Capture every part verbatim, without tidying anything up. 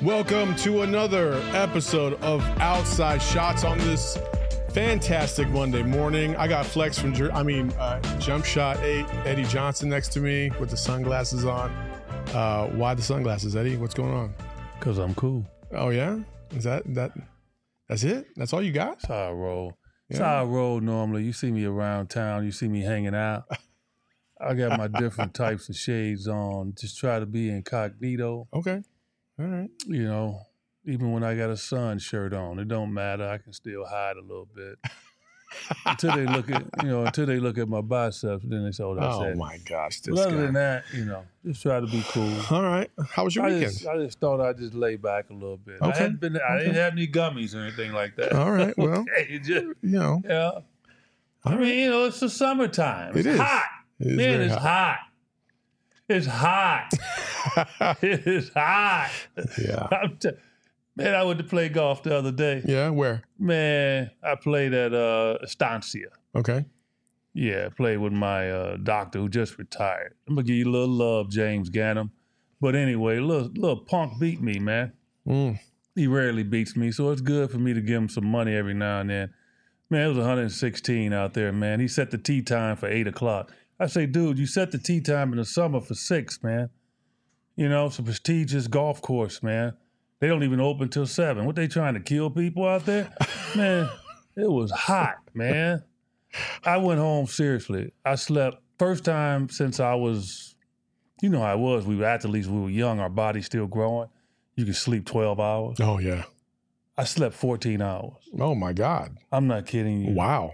Welcome to another episode of Outside Shots on this fantastic Monday morning. I got Flex from, I mean, uh, Jump Shot eight, Eddie Johnson next to me with the sunglasses on. Uh, why the sunglasses, Eddie? What's going on? Because I'm cool. Oh, yeah? Is that, that, that's it? That's all you got? That's how I roll. That's Yeah. how I roll normally. You see me around town. You see me hanging out. I got my different types of shades on. Just try to be incognito. Okay. All right. You know, even when I got a sun shirt on, it don't matter. I can still hide a little bit. Until they look at, you know, until they look at my biceps, then they say, oh, that's Oh, it. my gosh. This But other guy. than that, you know, just try to be cool. All right. How was your I weekend? just, I just thought I'd just lay back a little bit. I Okay. hadn't been, I Okay. didn't have any gummies or anything like that. All right. Well, Okay, just, you know. yeah. I mean, you know, it's the summertime. It's It is. hot. It is Man, very it's hot. It's hot. It is hot. Yeah. I'm t- Man, I went to play golf the other day. Yeah. Where? Man, I played at uh, Estancia. Okay. Yeah, played with my uh, doctor who just retired. I'm going to give you a little love, James Gannum. But anyway, little, little punk beat me, man. Mm. He rarely beats me, so it's good for me to give him some money every now and then. Man, it was one hundred sixteen out there, man. He set the tee time for eight o'clock. I say, dude, you set the tee time in the summer for six, man. You know, it's a prestigious golf course, man. They don't even open till seven. What, they trying to kill people out there? Man, it was hot, man. I went home, seriously. I slept, first time since I was, you know how I was. We were athletes, we were young, our body's still growing. You could sleep twelve hours. Oh, yeah. I slept fourteen hours. Oh, my God. I'm not kidding you. Wow.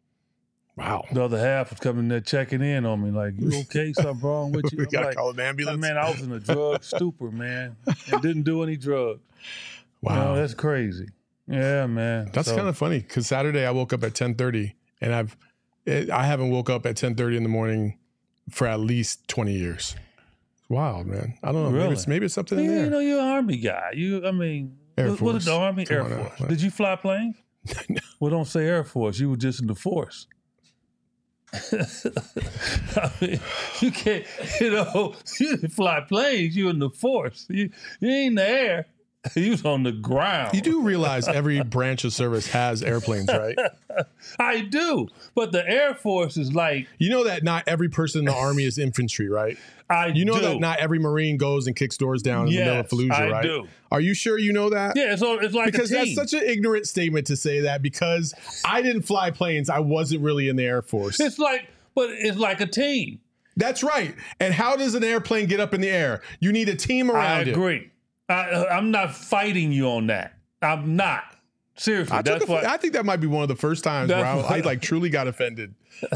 Wow. The other half was coming there checking in on me, like, you okay? Something wrong with you? We I'm got to like, call an ambulance. man, I was in a drug stupor, man, and didn't do any drugs. Wow. You know, that's crazy. Yeah, man. That's So, kind of funny because Saturday I woke up at ten thirty and I've it, I haven't woke up at ten thirty in the morning for at least twenty years. It's wild, man. I don't know. Maybe Really? it's maybe it's something Yeah, in there. you know, you're an Army guy. You, I mean, Air what, what Force. is the Army? Come Air on now. Force. Did you fly planes? No. Well, don't say Air Force. You were just in the force. I mean, you can't, you know, you didn't fly planes. You in the force. You, you ain't in the air. You was on the ground. You do realize every branch of service has airplanes, right? I do. But the Air Force is like, You know that not every person in the Army is infantry, right? I You know do. that not every Marine goes and kicks doors down in the middle of Yes, Fallujah, I right? do. Are you sure you know that? Yeah, so it's like Because a that's team. such an ignorant statement to say that because I didn't fly planes. I wasn't really in the Air Force. It's like, but it's like a team. That's right. And how does an airplane get up in the air? You need a team I around it. agree. I, I'm not fighting you on that. I'm not. Seriously, I, took that's a- what. I think that might be one of the first times where That's I, I what- like truly got offended. you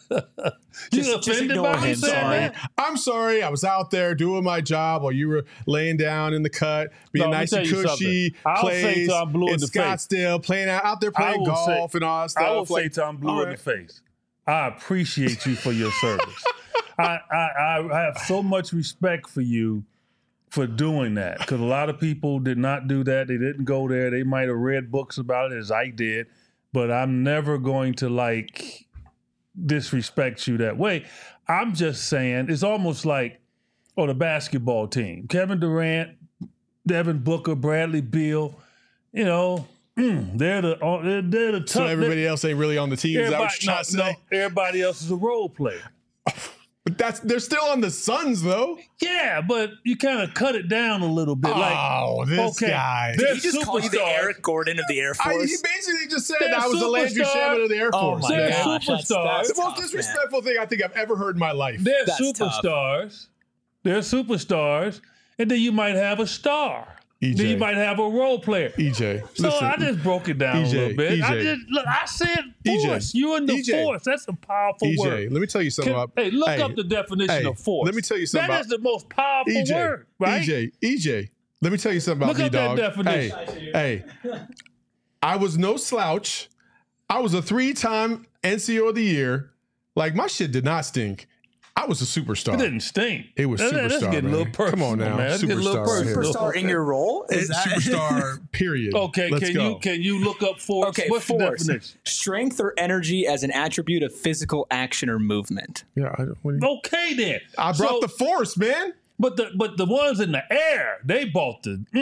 Just- just offended ignore by me him, saying sorry. that? I'm sorry. I was out there doing my job while you were laying down in the cut, being No, let me nice tell and you cushy. something. I'll say Plays till I'm blue in in the face. Scottsdale, playing out, out there I playing will golf say- and all that stuff. I will say like, till I'm blue all in right. the face. I appreciate you for your service. I, I, I have so much respect for you for doing that because a lot of people did not do that. They didn't go there. They might have read books about it as I did, but I'm never going to like disrespect you that way. I'm just saying it's almost like on the basketball team, Kevin Durant, Devin Booker, Bradley Beal, you know, mm, they're the uh, they're, they're the tough. So everybody else ain't really on the team. Is that what you're trying to no, say? no, everybody else is a role player. But that's they're still on the Suns though. Yeah, but you kind of cut it down a little bit. Like, Oh, this okay, guy. they're Did he just call you the superstars. Eric Gordon of the Air I, Force? he basically just said They're I was the Landry superstars. Shamet of the Air Oh Force. my They're man. gosh, that's, superstars. that's The most tough, disrespectful thing I think I've ever heard in my life. They're That's tough. superstars. They're superstars, and then you might have a star. E J. Then you might have a role player. E J, So listen, I just broke it down E J, a little bit. I E J. just look. I said E J, force. You in the E J. force. That's a powerful E J, word. let me tell you something Can- about. hey, look hey, up the definition hey, of force. let me tell you something That about is the most powerful E J. word, right? E J, E J, let me tell you something about Look me, up that dog. definition. Hey, hey, I was no slouch. I was a three-time N C O of the year. Like my shit did not stink. I was a superstar. It didn't stink. It was That- That's superstar, getting a man. little personal, Come on now, man. That's getting a little superstar right here. personal. Superstar in your role? Is It's that superstar. Period. Okay, Let's can go. you can you look up force? Okay, What's the force. definition? Strength or energy as an attribute of physical action or movement. Yeah, I, what do you- Okay, then. I brought So- the force, man. But the but the ones in the air, they bought the mm,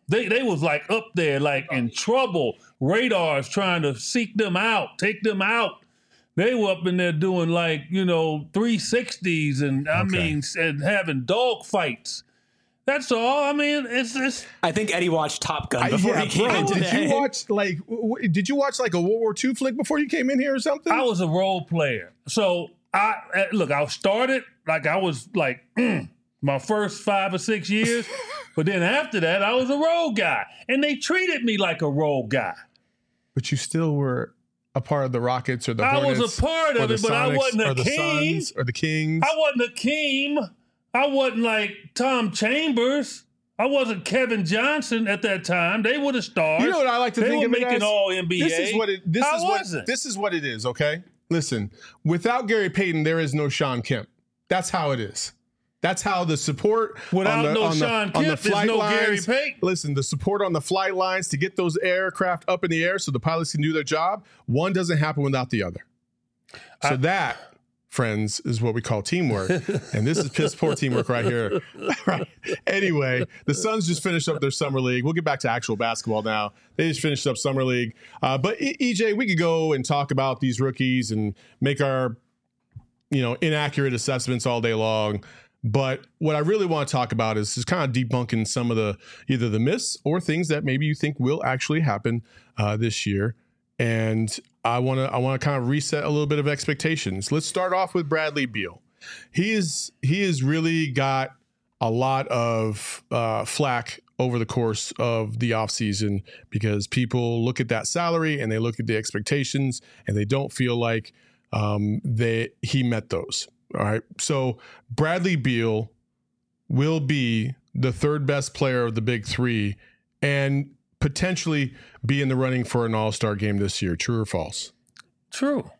They they was like up there, like in trouble. Radars trying to seek them out, take them out. They were up in there doing like, you know, three sixties and I Okay. mean, and having dog fights. That's all. I mean, it's it's. I think Eddie watched Top Gun I- before yeah, he came bro, in did today. you watch like? W- w- did you watch like a World War Two flick before you came in here or something? I was a role player. So I uh, look, I started like I was like mm, my first five or six years, but then after that, I was a role guy, and they treated me like a role guy. But you still were a part of the Rockets or the I was Hornets a part or of the it, but I Sonics wasn't a or the king. Suns or the Kings. I wasn't a king. I wasn't like Tom Chambers. I wasn't Kevin Johnson at that time. They were the stars. You know what I like to they think were of it making as? all N B A. This is what it. This I is what. wasn't. This is what it is. Okay, listen. Without Gary Payton, there is no Sean Kemp. That's how it is. That's how the support Without on the, no on the, Sean on the Kemp, there's flight no lines. Gary Payton. Listen, the support on the flight lines to get those aircraft up in the air so the pilots can do their job. One doesn't happen without the other. So I- that, friends, is what we call teamwork. And this is piss poor teamwork right here. Right. Anyway, the Suns just finished up their summer league. We'll get back to actual basketball now. They just finished up summer league. Uh, but E- EJ, we could go and talk about these rookies and make our, you know, inaccurate assessments all day long. But what I really want to talk about is just kind of debunking some of the either the myths or things that maybe you think will actually happen uh, this year. And I want to I want to kind of reset a little bit of expectations. Let's start off with Bradley Beal. He is he has really got a lot of uh, flack over the course of the offseason because people look at that salary and they look at the expectations and they don't feel like um, they he met those. All right. So Bradley Beal will be the third best player of the big three and potentially be in the running for an all-star game this year. True or false? True.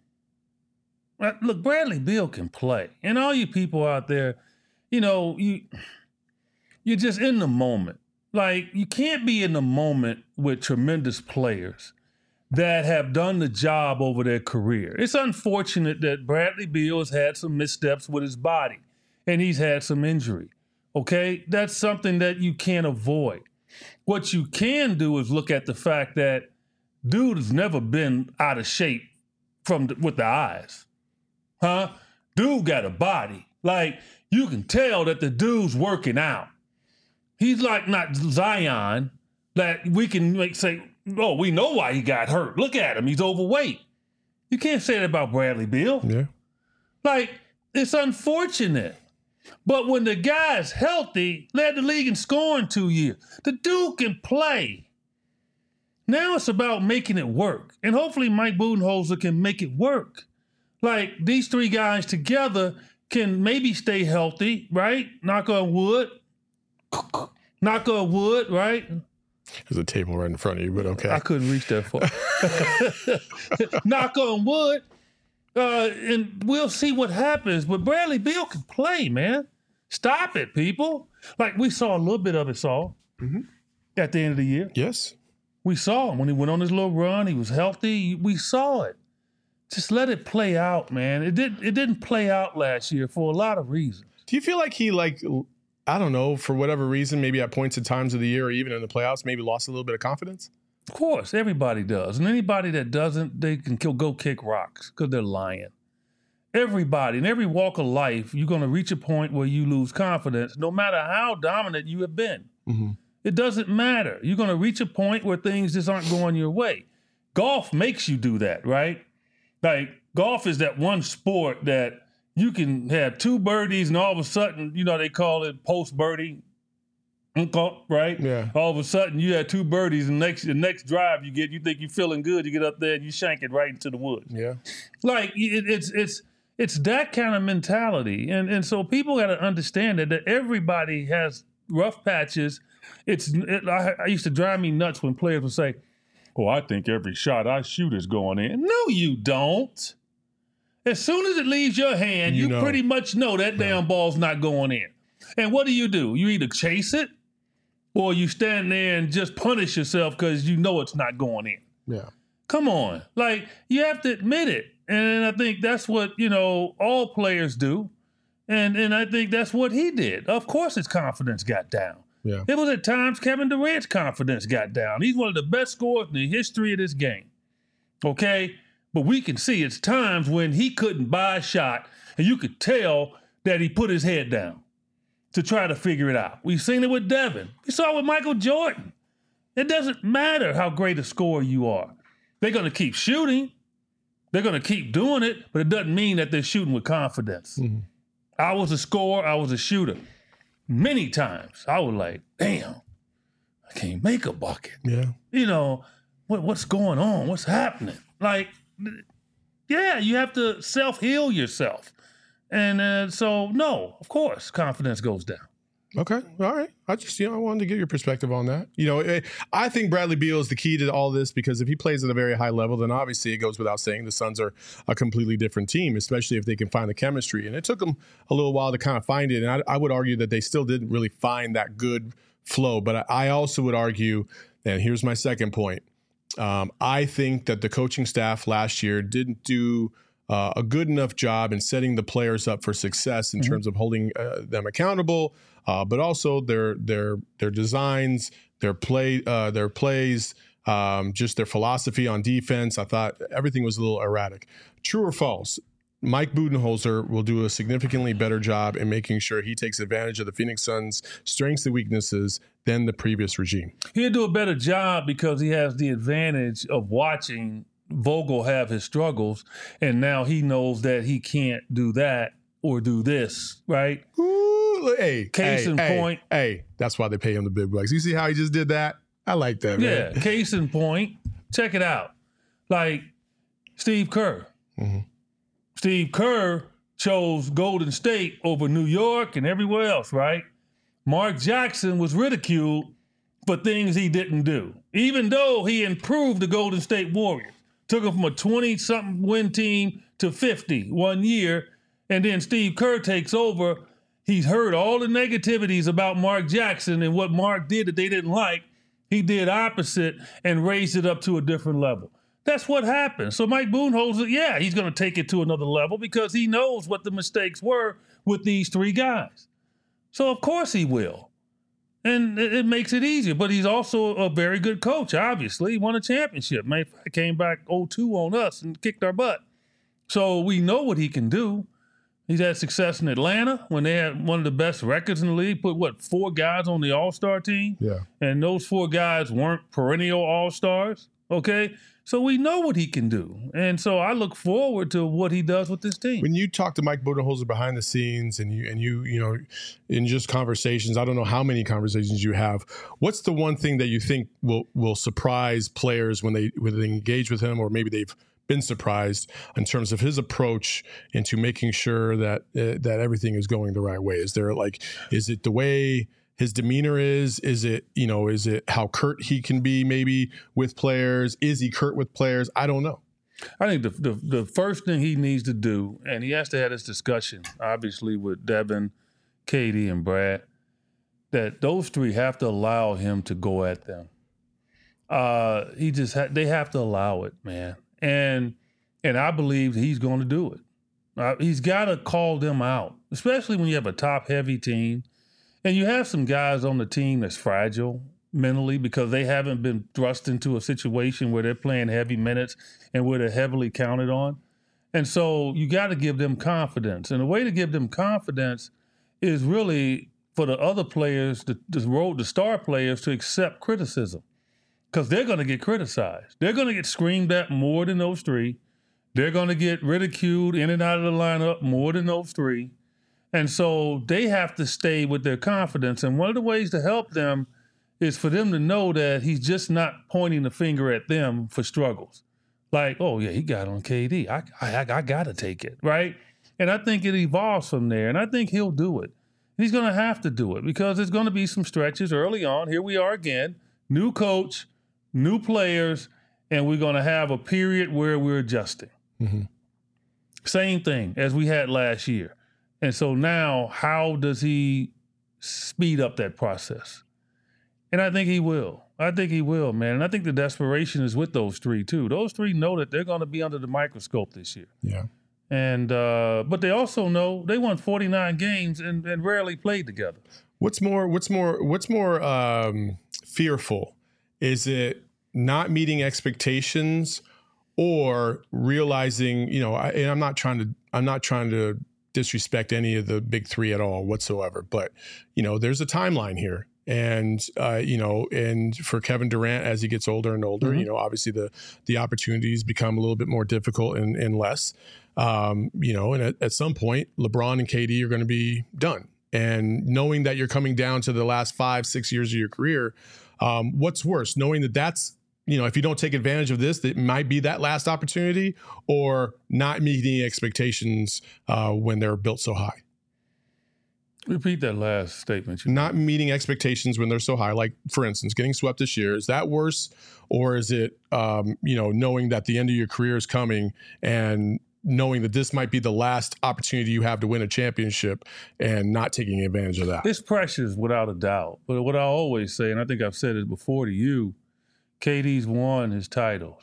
Uh, Look, Bradley Beal can play. And all you people out there, you know, you you're just in the moment. Like, you can't be in the moment with tremendous players that have done the job over their career. It's unfortunate that Bradley Beal has had some missteps with his body and he's had some injury. Okay? That's something that you can't avoid. What you can do is look at the fact that dude has never been out of shape from the, with the eyes. Huh? Dude got a body. Like, you can tell that the dude's working out. He's like not Zion that we can like say, oh, we know why he got hurt. Look at him. He's overweight. You can't say that about Bradley Beal. Yeah. Like, it's unfortunate. But when the guy's healthy, led the league in scoring two years, the dude can play. Now it's about making it work. And hopefully Mike Budenholzer can make it work. Like, these three guys together can maybe stay healthy, right? Knock on wood. Knock on wood, right? There's a table right in front of you, but okay. I couldn't reach that far. Knock on wood. Uh, and we'll see what happens. But Bradley Beal can play, man. Stop it, people. Like, we saw a little bit of it, Saul, Mhm. at the end of the year. Yes. We saw him when he went on his little run. He was healthy. We saw it. Just let it play out, man. It didn't. It didn't play out last year for a lot of reasons. Do you feel like he, like, I don't know, for whatever reason, maybe at points and times of the year or even in the playoffs, maybe lost a little bit of confidence? Of course, everybody does. And anybody that doesn't, they can kill, go kick rocks because they're lying. Everybody, in every walk of life, you're going to reach a point where you lose confidence, no matter how dominant you have been. Mm-hmm. It doesn't matter. You're going to reach a point where things just aren't going your way. Golf makes you do that, right? Like, golf is that one sport that you can have two birdies and all of a sudden, you know, they call it post-birdie, right? Yeah. All of a sudden, you had two birdies, and next the next drive you get, you think you're feeling good, you get up there and you shank it right into the woods. Yeah. Like, it, it's it's it's that kind of mentality, and and so people got to understand that, that everybody has rough patches. It's it, I, I used to drive me nuts when players would say, "Oh, I think every shot I shoot is going in." No, you don't. As soon as it leaves your hand, You you, know. pretty much know that damn ball's not going in. And what do you do? You either chase it, or you stand there and just punish yourself because you know it's not going in. Yeah. Come on. Like, you have to admit it. And I think that's what, you know, all players do. And and I think that's what he did. Of course his confidence got down. Yeah. It was at times Kevin Durant's confidence got down. He's one of the best scorers in the history of this game. Okay? But we can see it's times when he couldn't buy a shot, and you could tell that he put his head down to try to figure it out. We've seen it with Devin. We saw it with Michael Jordan. It doesn't matter how great a scorer you are. They're going to keep shooting. They're going to keep doing it, but it doesn't mean that they're shooting with confidence. Mm-hmm. I was a scorer. I was a shooter. Many times I was like, damn, I can't make a bucket. Yeah. You know, what, what's going on? What's happening? Like, yeah, you have to self-heal yourself. And uh, so, no, of course, confidence goes down. Okay. All right. I just, you know, I wanted to get your perspective on that. You know, it, I think Bradley Beal is the key to all this because if he plays at a very high level, then obviously it goes without saying the Suns are a completely different team, especially if they can find the chemistry. And it took them a little while to kind of find it. And I, I would argue that they still didn't really find that good flow. But I, I also would argue, and here's my second point, um, I think that the coaching staff last year didn't do uh, a good enough job in setting the players up for success in mm-hmm. terms of holding uh, them accountable, Uh, but also their their their designs, their play, uh, their plays, um, just their philosophy on defense. I thought everything was a little erratic. True or false? Mike Budenholzer will do a significantly better job in making sure he takes advantage of the Phoenix Suns' strengths and weaknesses than the previous regime. He'll do a better job because he has the advantage of watching Vogel have his struggles, and now he knows that he can't do that or do this, right? Ooh, hey, case hey, in hey, point. Hey, that's why they pay him the big bucks. You see how he just did that? I like that, man. Yeah, case in point. Check it out. Like Steve Kerr. Mm-hmm. Steve Kerr chose Golden State over New York and everywhere else, right? Mark Jackson was ridiculed for things he didn't do, even though he improved the Golden State Warriors. Took them from a twenty-something win team to fifty one year, and then Steve Kerr takes over. He's heard all the negativities about Mark Jackson and what Mark did that they didn't like. He did opposite and raised it up to a different level. That's what happened. So Mike Budenholzer, yeah, he's going to take it to another level because he knows what the mistakes were with these three guys. So of course he will. And it, it makes it easier. But he's also a very good coach, obviously. He won a championship. Man, he came back oh two on us and kicked our butt. So we know what he can do. He's had success in Atlanta when they had one of the best records in the league, put, what, four guys on the All-Star team? Yeah. And those four guys weren't perennial All-Stars, okay? So we know what he can do. And so I look forward to what he does with this team. When you talk to Mike Budenholzer behind the scenes and you, and you, you know, in just conversations, I don't know how many conversations you have, what's the one thing that you think will, will surprise players when they, when they engage with him, or maybe they've been surprised in terms of his approach into making sure that uh, that everything is going the right way? Is there like, is it the way his demeanor is? Is it, you know, is it how curt he can be maybe with players? Is he curt with players? I don't know. I think the, the the first thing he needs to do, and he has to have this discussion, obviously, with Devin, Katie, and Brad, that those three have to allow him to go at them. Uh, he just ha- they have to allow it, man. And and I believe he's going to do it. Uh, he's got to call them out, especially when you have a top-heavy team. And you have some guys on the team that's fragile mentally because they haven't been thrust into a situation where they're playing heavy minutes and where they're heavily counted on. And so you got to give them confidence. And the way to give them confidence is really for the other players, the, the road, the star players, to accept criticism. Because they're going to get criticized. They're going to get screamed at more than those three. They're going to get ridiculed in and out of the lineup more than those three. And so they have to stay with their confidence. And one of the ways to help them is for them to know that he's just not pointing the finger at them for struggles. Like, oh, yeah, he got on K D. I, I, I got to take it, right? And I think it evolves from there. And I think he'll do it. And he's going to have to do it because there's going to be some stretches early on. Here we are again, new coach, new players, and we're going to have a period where we're adjusting. Mm-hmm. Same thing as we had last year. And so now, how does he speed up that process? And I think he will. I think he will, man. And I think the desperation is with those three, too. Those three know that they're going to be under the microscope this year. Yeah. And uh, but they also know they won forty-nine games and, and rarely played together. What's more? What's more? What's more um, fearful? Is it not meeting expectations, or realizing? You know, I, and I'm not trying to. I'm not trying to disrespect any of the big three at all whatsoever. But you know, there's a timeline here, and uh, you know, and for Kevin Durant as he gets older and older, mm-hmm. you know, obviously the the opportunities become a little bit more difficult and, and less. Um, you know, and at, at some point, LeBron and K D are going to be done. And knowing that you're coming down to the last five, six years of your career, um, what's worse? Knowing that that's, you know, if you don't take advantage of this, it might be that last opportunity, or not meeting expectations uh, when they're built so high. Repeat that last statement. Not meeting expectations when they're so high. Like, for instance, getting swept this year. Is that worse? Or is it, um, you know, knowing that the end of your career is coming and knowing that this might be the last opportunity you have to win a championship and not taking advantage of that? It's precious without a doubt. But what I always say, and I think I've said it before to you, K D's won his titles.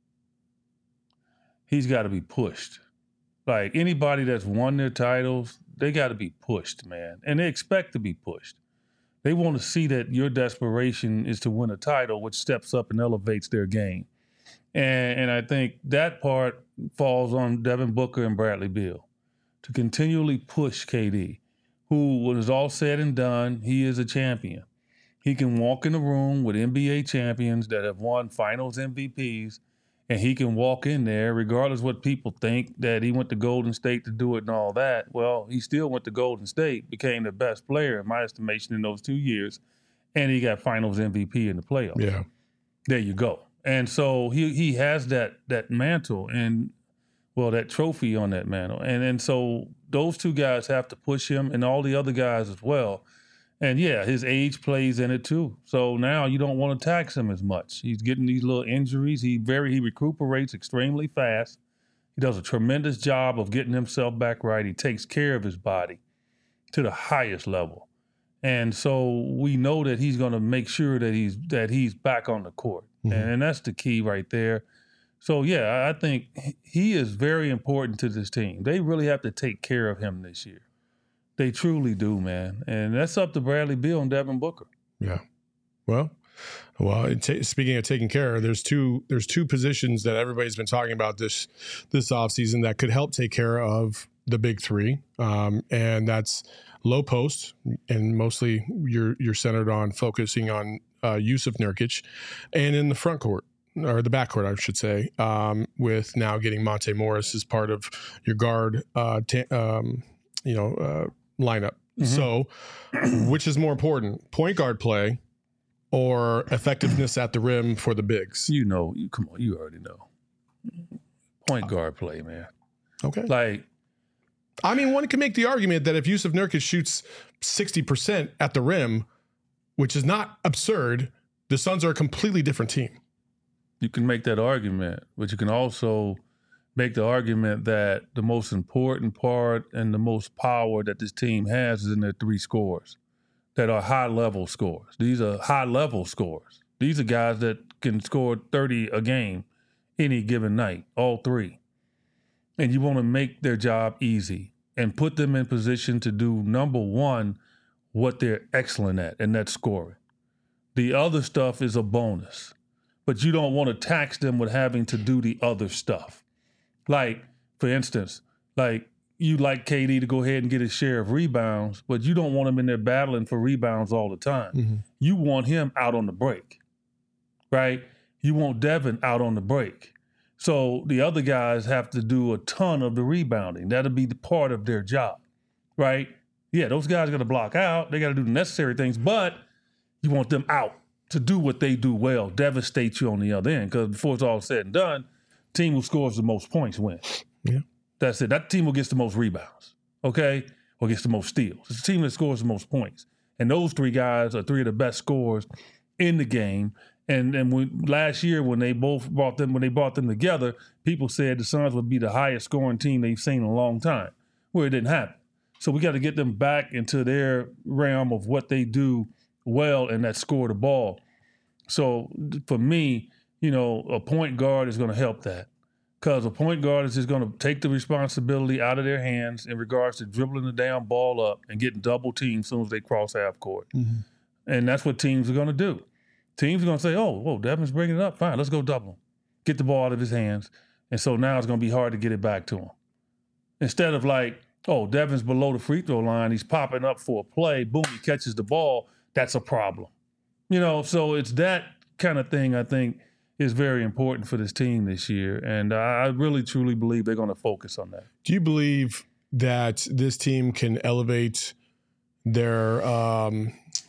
He's got to be pushed. Like, anybody that's won their titles, they got to be pushed, man. And they expect to be pushed. They want to see that your desperation is to win a title, which steps up and elevates their game. And, and I think that part falls on Devin Booker and Bradley Beal to continually push K D, who, when it's all said and done, he is a champion. He can walk in a room with N B A champions that have won finals M V Ps, and he can walk in there, regardless what people think, that he went to Golden State to do it and all that. Well, he still went to Golden State, became the best player, in my estimation, in those two years, and he got finals M V P in the playoffs. Yeah. There you go. And so he he has that that mantle and, well, that trophy on that mantle. And and so those two guys have to push him, and all the other guys as well. And, yeah, his age plays in it too. So now you don't want to tax him as much. He's getting these little injuries. He very he recuperates extremely fast. He does a tremendous job of getting himself back right. He takes care of his body to the highest level. And so we know that he's going to make sure that he's that he's back on the court. Mm-hmm. And, and that's the key right there. So, yeah, I think he is very important to this team. They really have to take care of him this year. They truly do, man. And that's up to Bradley Beal and Devin Booker. Yeah. Well, well. T- speaking of taking care, there's two there's two positions that everybody's been talking about this this offseason that could help take care of the big three, um, and that's low post, and mostly you're you're centered on focusing on uh, Jusuf Nurkic, and in the front court. Or the backcourt, I should say, um, with now getting Monte Morris as part of your guard, uh, t- um, you know, uh, lineup. Mm-hmm. So, which is more important, point guard play or effectiveness at the rim for the bigs? You know, you come on, you already know. Point guard play, man. Okay. Like, I mean, one can make the argument that if Jusuf Nurkic shoots sixty percent at the rim, which is not absurd, the Suns are a completely different team. You can make that argument, but you can also make the argument that the most important part and the most power that this team has is in their three scores that are high-level scores. These are high-level scores. These are guys that can score thirty a game any given night, all three. And you want to make their job easy and put them in position to do, number one, what they're excellent at, and that's scoring. The other stuff is a bonus. But you don't want to tax them with having to do the other stuff. Like, for instance, like you like K D to go ahead and get his share of rebounds, but you don't want him in there battling for rebounds all the time. Mm-hmm. You want him out on the break, right? You want Devin out on the break. So the other guys have to do a ton of the rebounding. That'll be the part of their job, right? Yeah, those guys got to block out. They got to do the necessary things, but you want them out to do what they do well, devastate you on the other end. Because before it's all said and done, team who scores the most points wins. Yeah. That's it. That team who gets the most rebounds, okay, or gets the most steals. It's the team that scores the most points. And those three guys are three of the best scorers in the game. And and when, last year when they both brought them when they brought them together, people said the Suns would be the highest scoring team they've seen in a long time. Well, it didn't happen. So we got to get them back into their realm of what they do well, and that score the ball. So for me, you know, a point guard is going to help that because a point guard is just going to take the responsibility out of their hands in regards to dribbling the damn ball up and getting double teamed as soon as they cross half court. Mm-hmm. And that's what teams are going to do. Teams are going to say, oh, whoa, Devin's bringing it up. Fine, let's go double him. Get the ball out of his hands. And so now it's going to be hard to get it back to him. Instead of like, oh, Devin's below the free throw line. He's popping up for a play. Boom, he catches the ball. That's a problem. You know, so it's that kind of thing I think is very important for this team this year. And I really, truly believe they're going to focus on that. Do you believe that this team can elevate their, um,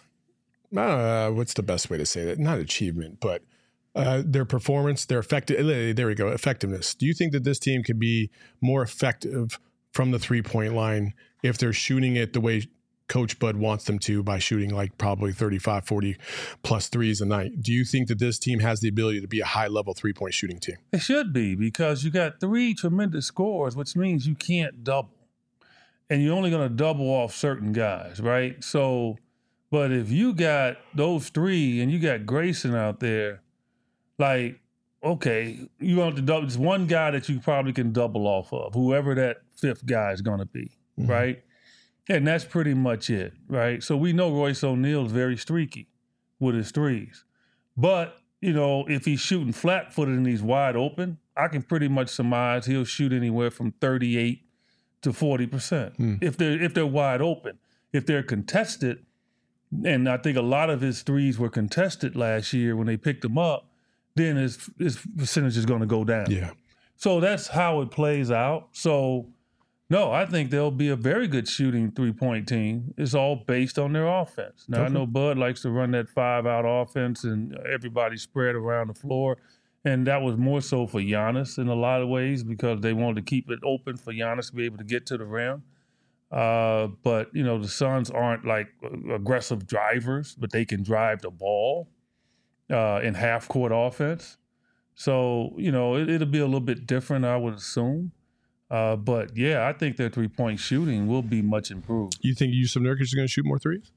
uh, what's the best way to say that? Not achievement, but uh, their performance, their effective, there we go, effectiveness. Do you think that this team can be more effective from the three-point line if they're shooting it the way Coach Bud wants them to, by shooting like probably thirty-five, forty plus threes a night? Do you think that this team has the ability to be a high-level three-point shooting team? It should be, because you got three tremendous scorers, which means you can't double. And you're only going to double off certain guys, right? So, but if you got those three and you got Grayson out there, like, okay, you want to double, it's one guy that you probably can double off of, whoever that fifth guy is going to be, mm-hmm. right? And that's pretty much it, right? So we know Royce O'Neal is very streaky with his threes. But, you know, if he's shooting flat-footed and he's wide open, I can pretty much surmise he'll shoot anywhere from thirty-eight to forty percent mm. if they're if they're wide open. If they're contested, and I think a lot of his threes were contested last year when they picked him up, then his, his percentage is going to go down. Yeah. So that's how it plays out. So, no, I think they'll be a very good shooting three-point team. It's all based on their offense. Now, okay. I know Bud likes to run that five-out offense and everybody spread around the floor, and that was more so for Giannis in a lot of ways because they wanted to keep it open for Giannis to be able to get to the rim. Uh, but, you know, the Suns aren't like aggressive drivers, but they can drive the ball uh, in half-court offense. So, you know, it, it'll be a little bit different, I would assume. Uh, but, yeah, I think their three-point shooting will be much improved. You think Yusuf Nurkic is going to shoot more threes?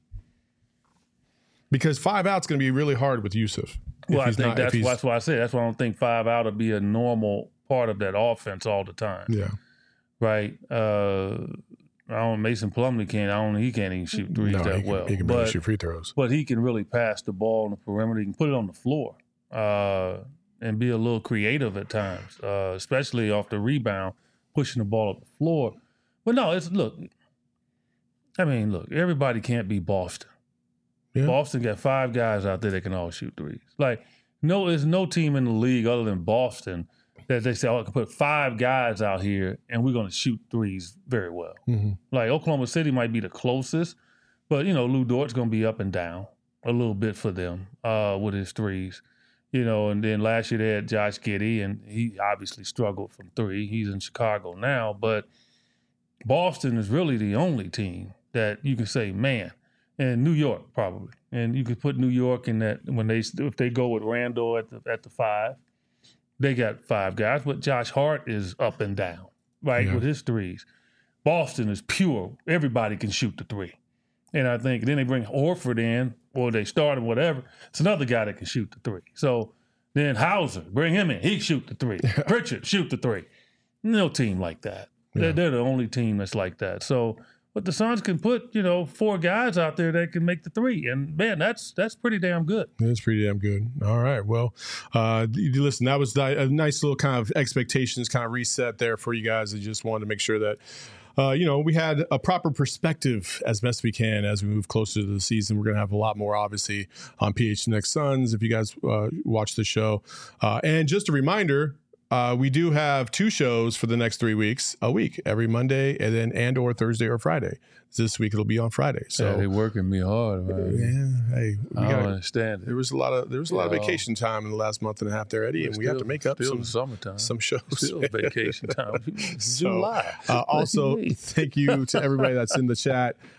Because five out's going to be really hard with Yusuf. Well, I think not, that's, that's why I say that's why I don't think five out will be a normal part of that offense all the time. Yeah. Right? Uh, I don't. Mason Plumlee can't. I don't. He can't even shoot threes no, that he can, well. He can barely shoot free throws. But he can really pass the ball on the perimeter. He can put it on the floor uh, and be a little creative at times, uh, especially off the rebound, pushing the ball up the floor. But no, it's look. I mean, look. Everybody can't be Boston. Yeah. Boston got five guys out there that can all shoot threes. Like, no, there's no team in the league other than Boston that they say, oh, I can put five guys out here and we're going to shoot threes very well. Mm-hmm. Like, Oklahoma City might be the closest, but, you know, Lou Dort's going to be up and down a little bit for them uh, with his threes. You know, and then last year they had Josh Giddey, and he obviously struggled from three. He's in Chicago now, but Boston is really the only team that you can say, man, and New York probably. And you could put New York in that when they if they go with Randall at the at the five, they got five guys. But Josh Hart is up and down, right, yeah. with his threes. Boston is pure. Everybody can shoot the three. And I think then they bring Horford in, or they start him, whatever. It's another guy that can shoot the three. So then Hauser, bring him in. He can shoot the three. Pritchard, shoot the three. No team like that. Yeah. They're, they're the only team that's like that. So but the Suns can put, you know, four guys out there that can make the three. And, man, that's that's pretty damn good. That's pretty damn good. All right. Well, uh, listen, that was a nice little kind of expectations kind of reset there for you guys. I just wanted to make sure that, uh, you know, we had a proper perspective as best we can as we move closer to the season. We're going to have a lot more, obviously, on P H N X Suns if you guys uh, watch the show. Uh, and just a reminder, Uh, we do have two shows for the next three weeks, a week, every Monday and then and or Thursday or Friday. This week it'll be on Friday. So yeah, they're working me hard, man. Yeah, hey, we I gotta, don't understand it. There was a lot of there was a lot yeah. of vacation time in the last month and a half there, Eddie, and still, we have to make up still some summertime. some shows. Still vacation time. so, July. Uh, also, thank you to everybody that's in the chat.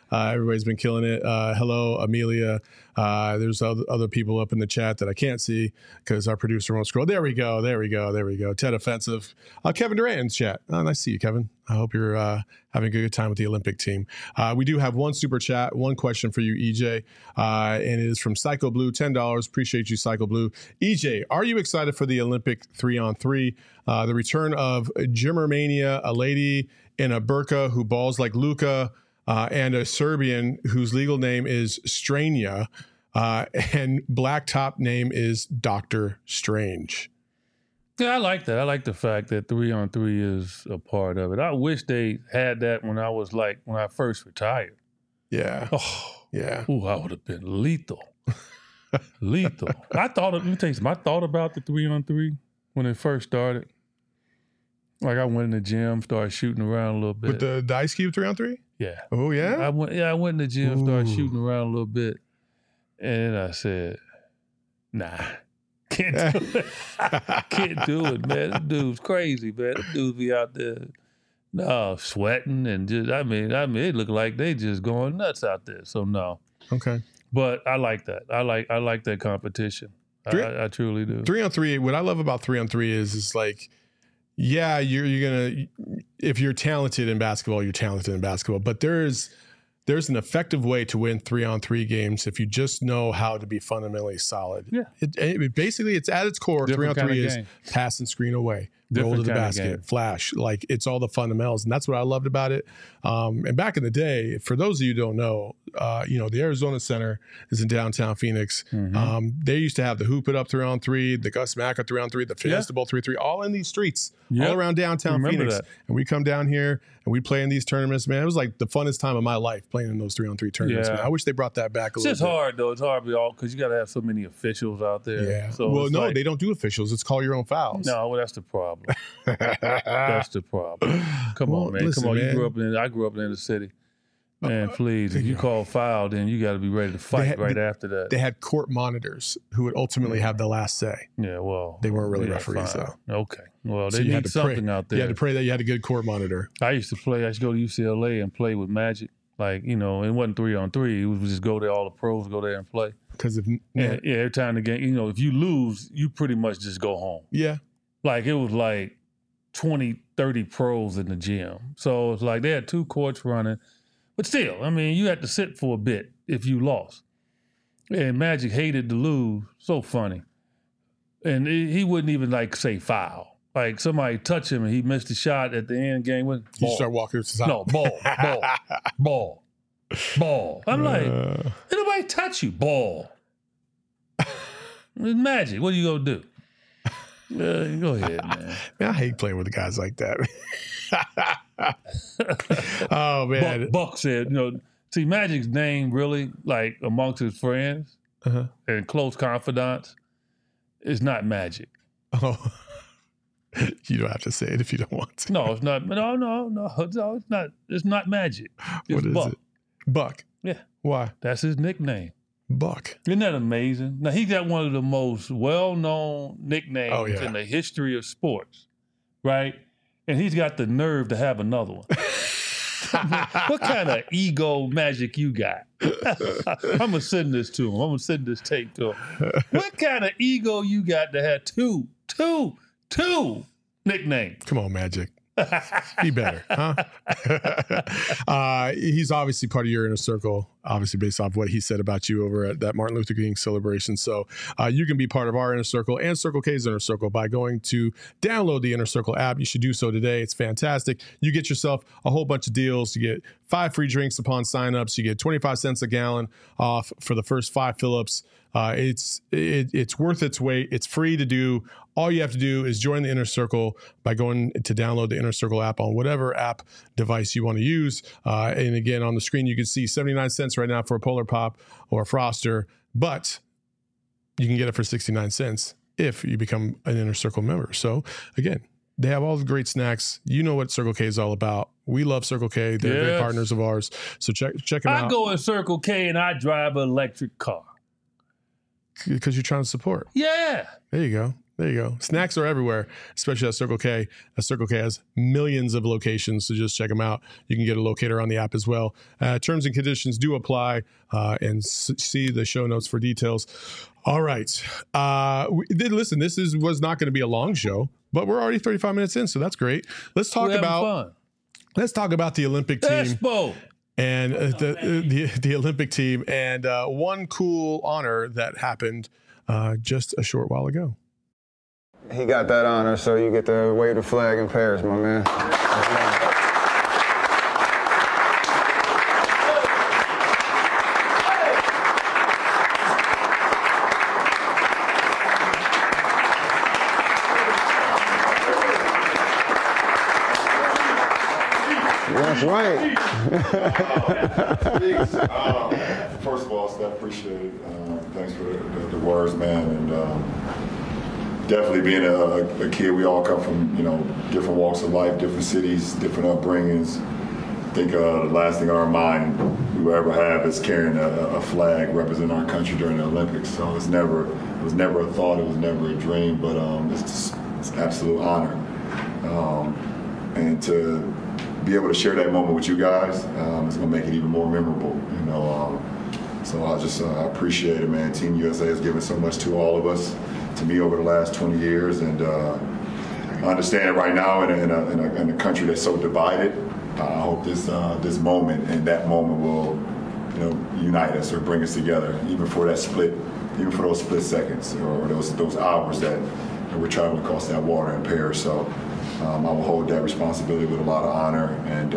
Uh, everybody's been killing it. Uh, hello, Amelia. Uh, there's other, other people up in the chat that I can't see because our producer won't scroll. There we go. There we go. There we go. Ted Offensive. Uh, Kevin Durant in the chat. Oh, nice to see you, Kevin. I hope you're uh, having a good time with the Olympic team. Uh, we do have one super chat, one question for you, E J, uh, and it is from Psycho Blue, ten dollars. Appreciate you, Psycho Blue. E J, are you excited for the Olympic three-on-three? Uh, the return of Gymmermania, a lady in a burqa who balls like Luka, uh, and a Serbian whose legal name is Stranja, uh, and black top name is Doctor Strange. Yeah, I like that. I like the fact that three on three is a part of it. I wish they had that when I was like, when I first retired. Yeah. Oh, yeah. Ooh, I would have been lethal. lethal. I thought, let me tell you something. I thought about the three on three when it first started. Like I went in the gym, started shooting around a little bit. With the, the Ice Cube three on three? Yeah. Oh, yeah? I went, yeah, I went in the gym, Ooh. started shooting around a little bit. And I said, nah. Can't do it. Can't do it, man. Them dude's crazy, man. Them dudes be out there, no, sweating and just, I mean, I mean, it look like they just going nuts out there. So no. Okay. But I like that. I like, I like that competition. Three, I, I truly do. Three on three. What I love about three on three is, is like, yeah, you're you're gonna, if you're talented in basketball, you're talented in basketball. But there's there's an effective way to win three on three games if you just know how to be fundamentally solid. Yeah. It, it basically, it's at its core. Different three on three is game. pass and screen away. Different Roll to the kind of basket, game. flash. Like, it's all the fundamentals. And that's what I loved about it. Um, and back in the day, for those of you who don't know, uh, you know, the Arizona Center is in downtown Phoenix. Mm-hmm. Um, they used to have the Hoop It Up three on three, the Gus Macca three on three, the Fiesta Bowl three on three, all in these streets, Yep. all around downtown Remember Phoenix. that. And we come down here and we play in these tournaments, man. It was like the funnest time of my life playing in those three on three tournaments, Yeah. man. I wish they brought that back a It's little just bit. hard, though. It's hard because you got to have so many officials out there. Yeah. So well, it's no, like, they don't do officials. It's call your own fouls. No, well, that's the problem. That's the problem. Come Well, on, man. listen, Come on. man. You grew up in. I grew up in the city. Man, Uh, please, if you call foul, then you got to be ready to fight had- right after that. They had court monitors who would ultimately have the last say. yeah, well, They weren't really yeah, referees, fine. though. Okay, well, So they you had need to pray. something out there. You had to pray that you had a good court monitor. I used to play. I used to go to U C L A and play with Magic. Like, you know, it wasn't three on three. It was just go there. All the pros go there and play. Because if Yeah, yeah. Every time the game, you know, if you lose, you pretty much just go home. yeah, Like it was like twenty, thirty pros in the gym. So it's like they had two courts running. But still, I mean, you had to sit for a bit if you lost. And Magic hated to lose. So funny. And he he wouldn't even like say foul. Like somebody touch him and he missed a shot at the end game. With you ball. start walking to the side. No, ball, ball, ball, ball. I'm like, Uh, did nobody touch you? Ball. It's Magic. What are you going to do? Uh, go ahead, man. man, I hate playing with guys like that. Oh man, Buck, Buck said, you know, see, Magic's name really, like amongst his friends uh-huh. and close confidants, is not Magic. Oh, you don't have to say it if you don't want to. No, it's not. No, no, no, no. It's not. It's not Magic. It's What is Buck. it? Buck. Yeah, Why? that's his nickname. Buck. Isn't that amazing? Now he got one of the most well-known nicknames Oh, yeah. in the history of sports, right? And he's got the nerve to have another one. What kind of ego magic you got? I'm gonna send this to him. I'm gonna send this tape to him. What kind of ego you got to have two, two, two nicknames? Come on, Magic. Be better, huh? uh, he's obviously part of your inner circle, obviously based off what he said about you over at that Martin Luther King celebration. So uh, you can be part of our inner circle and Circle K's inner circle by going to download the Inner Circle app. You should do so today. It's fantastic. You get yourself a whole bunch of deals. You get five free drinks upon signups. You get twenty-five cents a gallon off for the first five fill-ups. Uh, it's it, it's worth its weight. It's free to do. All you have to do is join the Inner Circle by going to download the Inner Circle app on whatever app device you want to use. Uh, and again, on the screen, you can see seventy-nine cents right now for a Polar Pop or a Froster, but you can get it for sixty-nine cents if you become an Inner Circle member. So again, they have all the great snacks. You know what Circle K is all about. We love Circle K. They're Yes. great partners of ours. So check check them I out go in Circle K and I drive an electric car. because you're trying to support. Yeah. There you go. There you go. Snacks are everywhere, especially at Circle K. At Circle K has millions of locations, so just check them out. You can get a locator on the app as well. Uh, terms and conditions do apply, uh, and s- see the show notes for details. All right. Uh, we, listen, this is was not going to be a long show, but we're already thirty-five minutes in, so that's great. Let's talk We're having about fun. let's talk about the Olympic team. Expo. And uh, the, the the Olympic team, and uh, one cool honor that happened uh, just a short while ago. He got that honor, so you get to wave the flag in Paris, my man. That's right. um, first of all, Steph, appreciate it. Um, thanks for the, the, the words, man. And um, definitely being a, a kid, we all come from, you know, different walks of life, different cities, different upbringings. I think uh, the last thing on our mind we will ever have is carrying a, a flag representing our country during the Olympics. So it's never, it was never a thought, it was never a dream, but um, it's just, it's an absolute honor. Um, and to be able to share that moment with you guys, um, it's gonna make it even more memorable, you know. Um, so I just uh, appreciate it, man. Team U S A has given so much to all of us, to me over the last twenty years, and uh, I understand it right now in a, in, a, in, a, in a country that's so divided. Uh, I hope this uh, this moment and that moment will, you know, unite us or bring us together, even for that split, even for those split seconds or those those hours that, that we're traveling across that water in Paris. So. Um, I will hold that responsibility with a lot of honor, and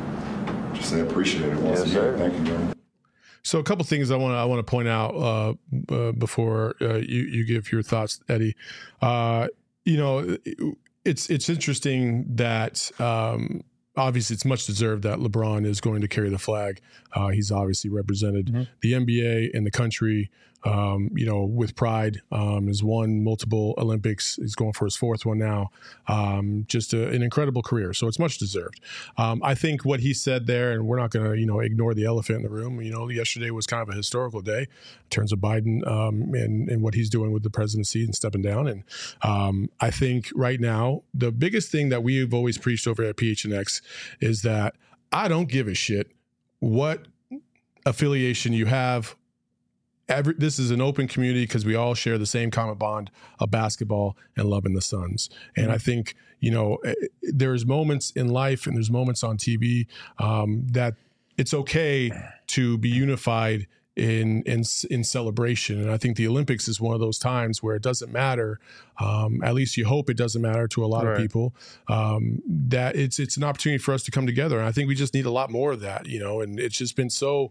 um, just say appreciate it once yes, again. Sir. Thank you, man. So a couple things I want to I want to point out uh, uh, before uh, you you give your thoughts, Eddie. Uh, you know, it's it's interesting that. Um, Obviously, it's much deserved that LeBron is going to carry the flag. Uh, he's obviously represented mm-hmm. the N B A and the country, um, you know, with pride. Um, has won multiple Olympics. He's going for his fourth one now. Um, just a, an incredible career. So it's much deserved. Um, I think what he said there, and we're not going to, you know, ignore the elephant in the room. You know, yesterday was kind of a historical day in terms of Biden um, and, and what he's doing with the presidency and stepping down. And um, I think right now, the biggest thing that we've always preached over at P H N X is that I don't give a shit what affiliation you have. Every, this is an open community because we all share the same common bond of basketball and loving the Suns. And mm-hmm. I think, you know, there's moments in life and there's moments on T V um, that it's okay to be unified in in in celebration. And I think the Olympics is one of those times where it doesn't matter. Um, at least you hope it doesn't matter to a lot right. of people. Um, that it's it's an opportunity for us to come together, and I think we just need a lot more of that. You know, and it's just been so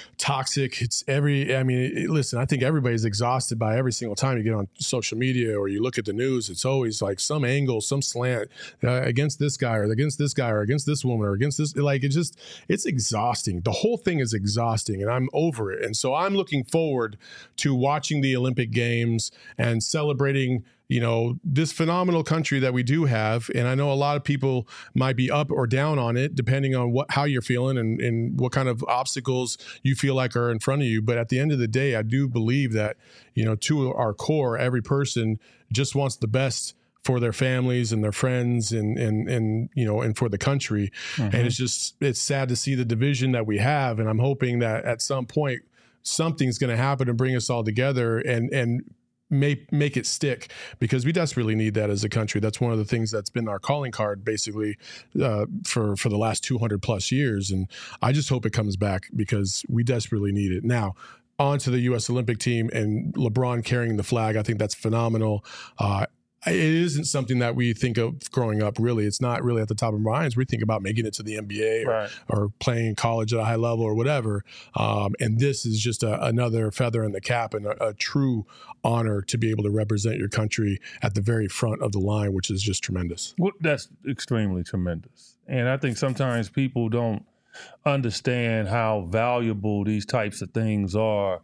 toxic. It's every. I mean, it, listen. I think everybody's exhausted by every single time you get on social media or you look at the news. It's always like some angle, some slant uh, against this guy or against this guy or against this woman or against this. Like it just it's exhausting. The whole thing is exhausting, and I'm over it. And so I'm looking forward to watching the Olympic Games and celebrating, you know, this phenomenal country that we do have. And I know a lot of people might be up or down on it, depending on what how you're feeling and, and what kind of obstacles you feel like are in front of you. But at the end of the day, I do believe that, you know, to our core, every person just wants the best for their families and their friends and, and, and, you know, and for the country. Mm-hmm. And it's just, it's sad to see the division that we have. And I'm hoping that at some point, something's going to happen and bring us all together and, and make, make it stick, because we desperately need that as a country. That's one of the things that's been our calling card basically uh, for, for the last two hundred plus years. And I just hope it comes back because we desperately need it. Now, on to the U S Olympic team and LeBron carrying the flag. I think that's phenomenal. Uh, It isn't something that we think of growing up, really. It's not really at the top of our minds. We think about making it to the N B A or, right. or playing in college at a high level or whatever. Um, and this is just a, another feather in the cap and a, a true honor to be able to represent your country at the very front of the line, which is just tremendous. Well, that's extremely tremendous. And I think sometimes people don't understand how valuable these types of things are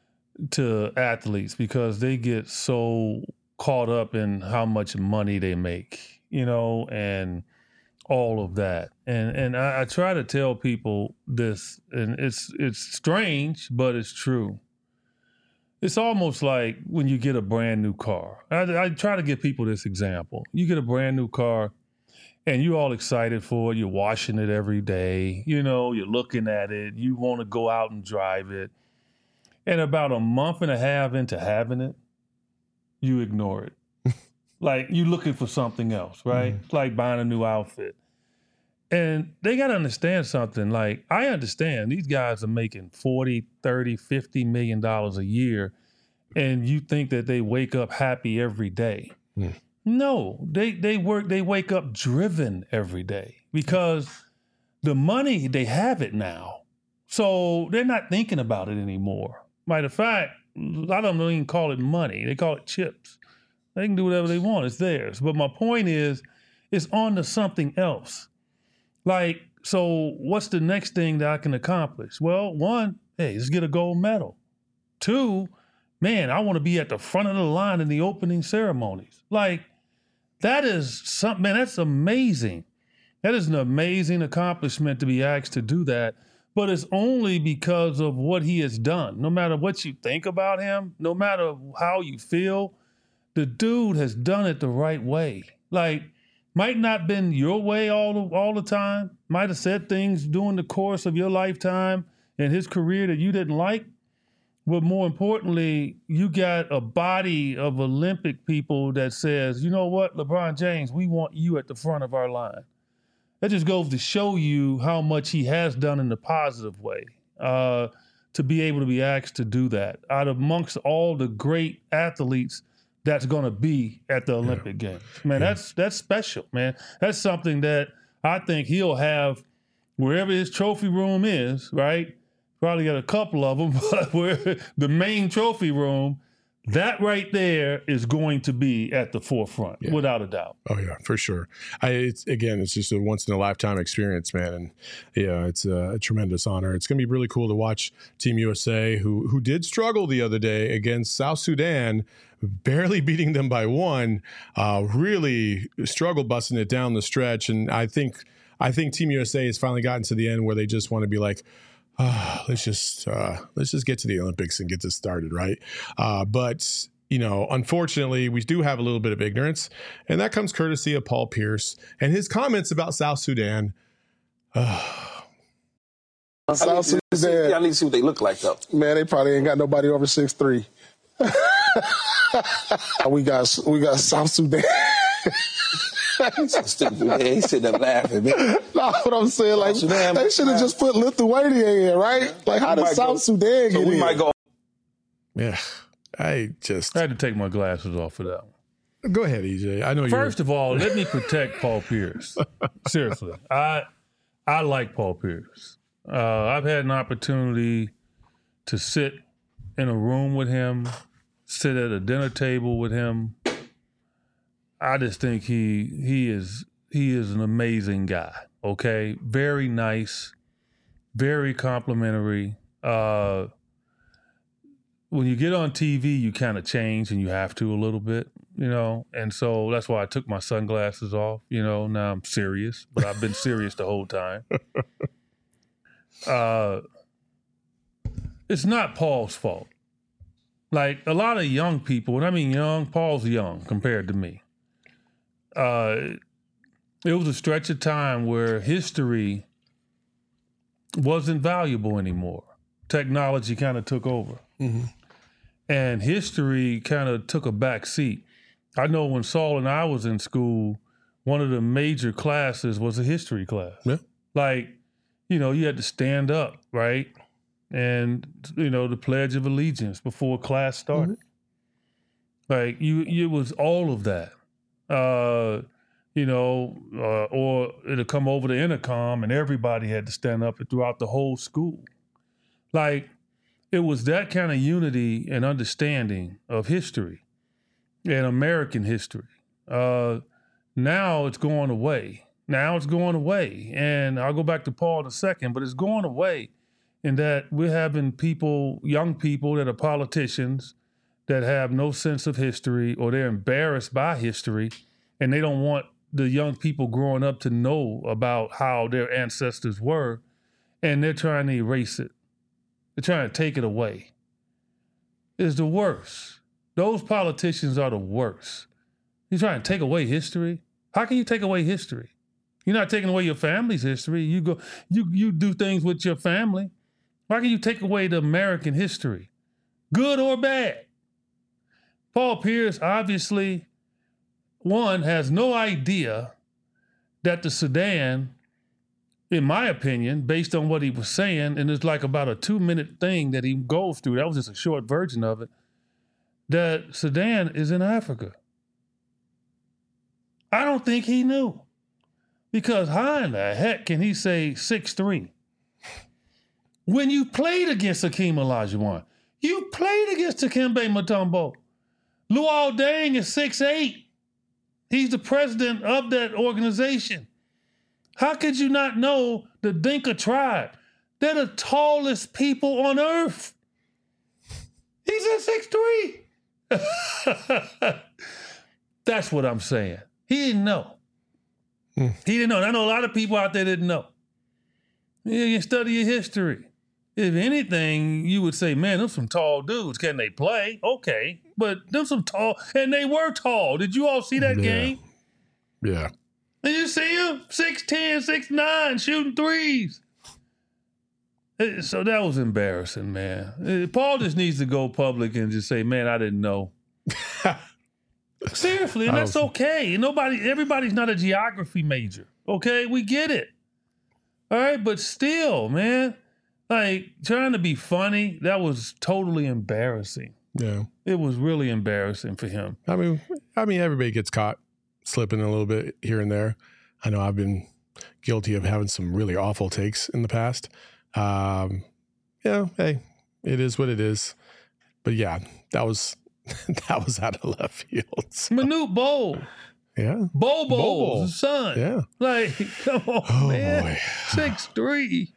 to athletes because they get so caught up in how much money they make, you know, and all of that. And and I, I try to tell people this, and it's it's strange, but it's true. it's almost like when you get a brand new car. I, I try to give people this example. You get a brand new car and you're all excited for it. You're washing it every day. You know, you're looking at it. You want to go out and drive it. And about a month and a half into having it, you ignore it. Like you're looking for something else, right? Mm-hmm. It's like buying a new outfit. And they got to understand something. Like, I understand these guys are making forty, thirty, fifty million dollars a year, and you think that they wake up happy every day. Mm. No, they they work, they wake up driven every day because the money, they have it now. So they're not thinking about it anymore. Matter of fact, a lot of them don't even call it money. They call it chips. They can do whatever they want. It's theirs. But my point is, it's on to something else. Like, so what's the next thing that I can accomplish? Well, one, hey, let's get a gold medal. Two, man, I want to be at the front of the line in the opening ceremonies. Like, that is something, man, that's amazing. That is an amazing accomplishment to be asked to do that. But it's only because of what he has done. No matter what you think about him, no matter how you feel, the dude has done it the right way. Like, might not been your way all the, all the time. Might have said things during the course of your lifetime and his career that you didn't like. But more importantly, you got a body of Olympic people that says, you know what, LeBron James, we want you at the front of our line. That just goes to show you how much he has done in the positive way, uh, to be able to be asked to do that. Out of amongst all the great athletes that's going to be at the Olympic yeah. Games. Man, yeah. that's that's special, man. That's something that I think he'll have wherever his trophy room is, right? Probably got a couple of them, but where the main trophy room, that right there is going to be at the forefront, yeah. without a doubt. Oh, yeah, for sure. I, it's, again, it's just a once-in-a-lifetime experience, man. And, yeah, it's a, a tremendous honor. It's going to be really cool to watch Team U S A, who who did struggle the other day against South Sudan, barely beating them by one, uh, really struggled busting it down the stretch. And I think I think Team U S A has finally gotten to the end where they just want to be like, oh, let's just uh, let's just get to the Olympics and get this started, right? Uh, but, you know, unfortunately, we do have a little bit of ignorance, and that comes courtesy of Paul Pierce and his comments about South Sudan. Uh, South Sudan. See, y'all need to see what they look like, though. Man, they probably ain't got nobody over six three. we got we got South Sudan. He sitting there laughing, man. No, what I'm saying, like, Sudan, they should have just put Lithuania in, right? Yeah. Like, how did South go, Sudan get so we in? Might go. Yeah, I just... I had to take my glasses off for that one. Go ahead, E J. I know you. First of all, let me protect Paul Pierce. Seriously. I I like Paul Pierce. Uh, I've had an opportunity to sit in a room with him, sit at a dinner table with him. I just think he he is he is an amazing guy. Okay, very nice, very complimentary. Uh, when you get on T V, you kind of change, and you have to a little bit, you know. And so that's why I took my sunglasses off. You know, now I'm serious, but I've been serious the whole time. Uh, it's not Paul's fault. Like a lot of young people, and I mean young, Paul's young compared to me. Uh, it was a stretch of time where history wasn't valuable anymore. Technology kind of took over. Mm-hmm. And history kind of took a back seat. I know when Saul and I was in school, one of the major classes was a history class. Yeah. Like, you know, you had to stand up, right? And, you know, the Pledge of Allegiance before class started. Mm-hmm. Like, you, it was all of that. Uh, you know, uh, or it'll come over the intercom and everybody had to stand up throughout the whole school. Like, it was that kind of unity and understanding of history and American history. Uh, now it's going away. Now it's going away. And I'll go back to Paul in a second, but it's going away in that we're having people, young people that are politicians that have no sense of history, or they're embarrassed by history, and they don't want the young people growing up to know about how their ancestors were, and they're trying to erase it. They're trying to take it away. is the worst. Those politicians are the worst. You're trying to take away history. How can you take away history? You're not taking away your family's history. You go, you you do things with your family. Why can you take away the American history, good or bad? Paul Pierce obviously, one, has no idea that the Sudan, in my opinion, based on what he was saying, and it's like about a two-minute thing that he goes through, that was just a short version of it, that Sudan is in Africa. I don't think he knew. Because how in the heck can he say six three? When you played against Hakeem Olajuwon, you played against Dikembe Mutombo. Luol Deng is six eight. He's the president of that organization. How could you not know the Dinka tribe? They're the tallest people on earth. He's at six three. That's what I'm saying. He didn't know. Hmm. He didn't know. And I know a lot of people out there didn't know. You can study your history. If anything, you would say, man, them some tall dudes. Can they play? Okay. But them some tall, and they were tall. Did you all see that yeah. game? Yeah. Did you see him? six ten, six nine, shooting threes. So that was embarrassing, man. Paul just needs to go public and just say, man, I didn't know. Seriously, and that's okay. Nobody, everybody's not a geography major. Okay, we get it. All right, but still, man, like trying to be funny, that was totally embarrassing. Yeah, it was really embarrassing for him. I mean, I mean, everybody gets caught slipping a little bit here and there. I know I've been guilty of having some really awful takes in the past. Um, yeah, hey, it is what it is. But yeah, that was. That was out of left field. So. Manute Bol. Yeah. Bobo's son. Yeah. Like, come on, oh, man. Boy. six three.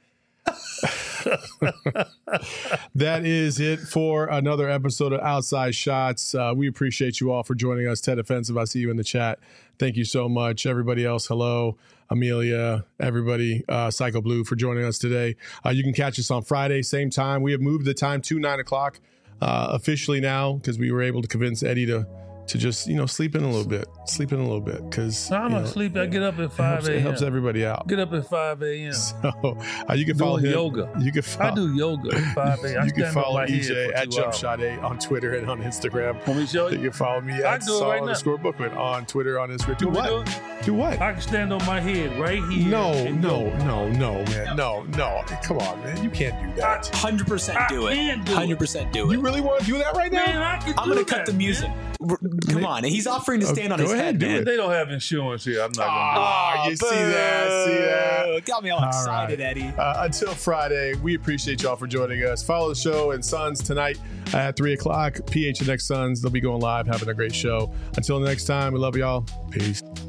That is it for another episode of Outside Shots. Uh, we appreciate you all for joining us. Ted Offensive, I see you in the chat. Thank you so much. Everybody else, hello. Amelia, everybody, uh, Psycho Blue for joining us today. Uh, you can catch us on Friday, same time. We have moved the time to nine o'clock. Uh, officially now, because we were able to convince Eddie to to just, you know, sleep in a little bit, sleep in a little bit, because I'm gonna sleep. I get up at five a.m. It helps everybody out. Get up at five a.m. So uh, you can follow Doing him. yoga. You can follow, I do yoga at five a.m. You can follow E J at Jump Shot eight on Twitter and on Instagram. Want me to show you? You can follow me I at do it Saul right underscore Bookman on Twitter, on Instagram. Do Want me what? to do it? Do what? I can stand on my head right here. No, and no, go. no, no, man, no, no. Come on, man, you can't do that. one hundred percent do I it. can do one hundred percent do it. You really want to do that right now? Man, I can I'm do going to cut that, the music. man. Come on. He's offering to stand on Go his ahead, head, do man. it. They don't have insurance here. I'm not Ah, gonna you see that? See that? Got me all, All excited, right. Eddie. Uh, until Friday, we appreciate y'all for joining us. Follow the show and Suns tonight at three o'clock. P H N X Suns. They'll be going live, having a great show. Until next time, we love y'all. Peace.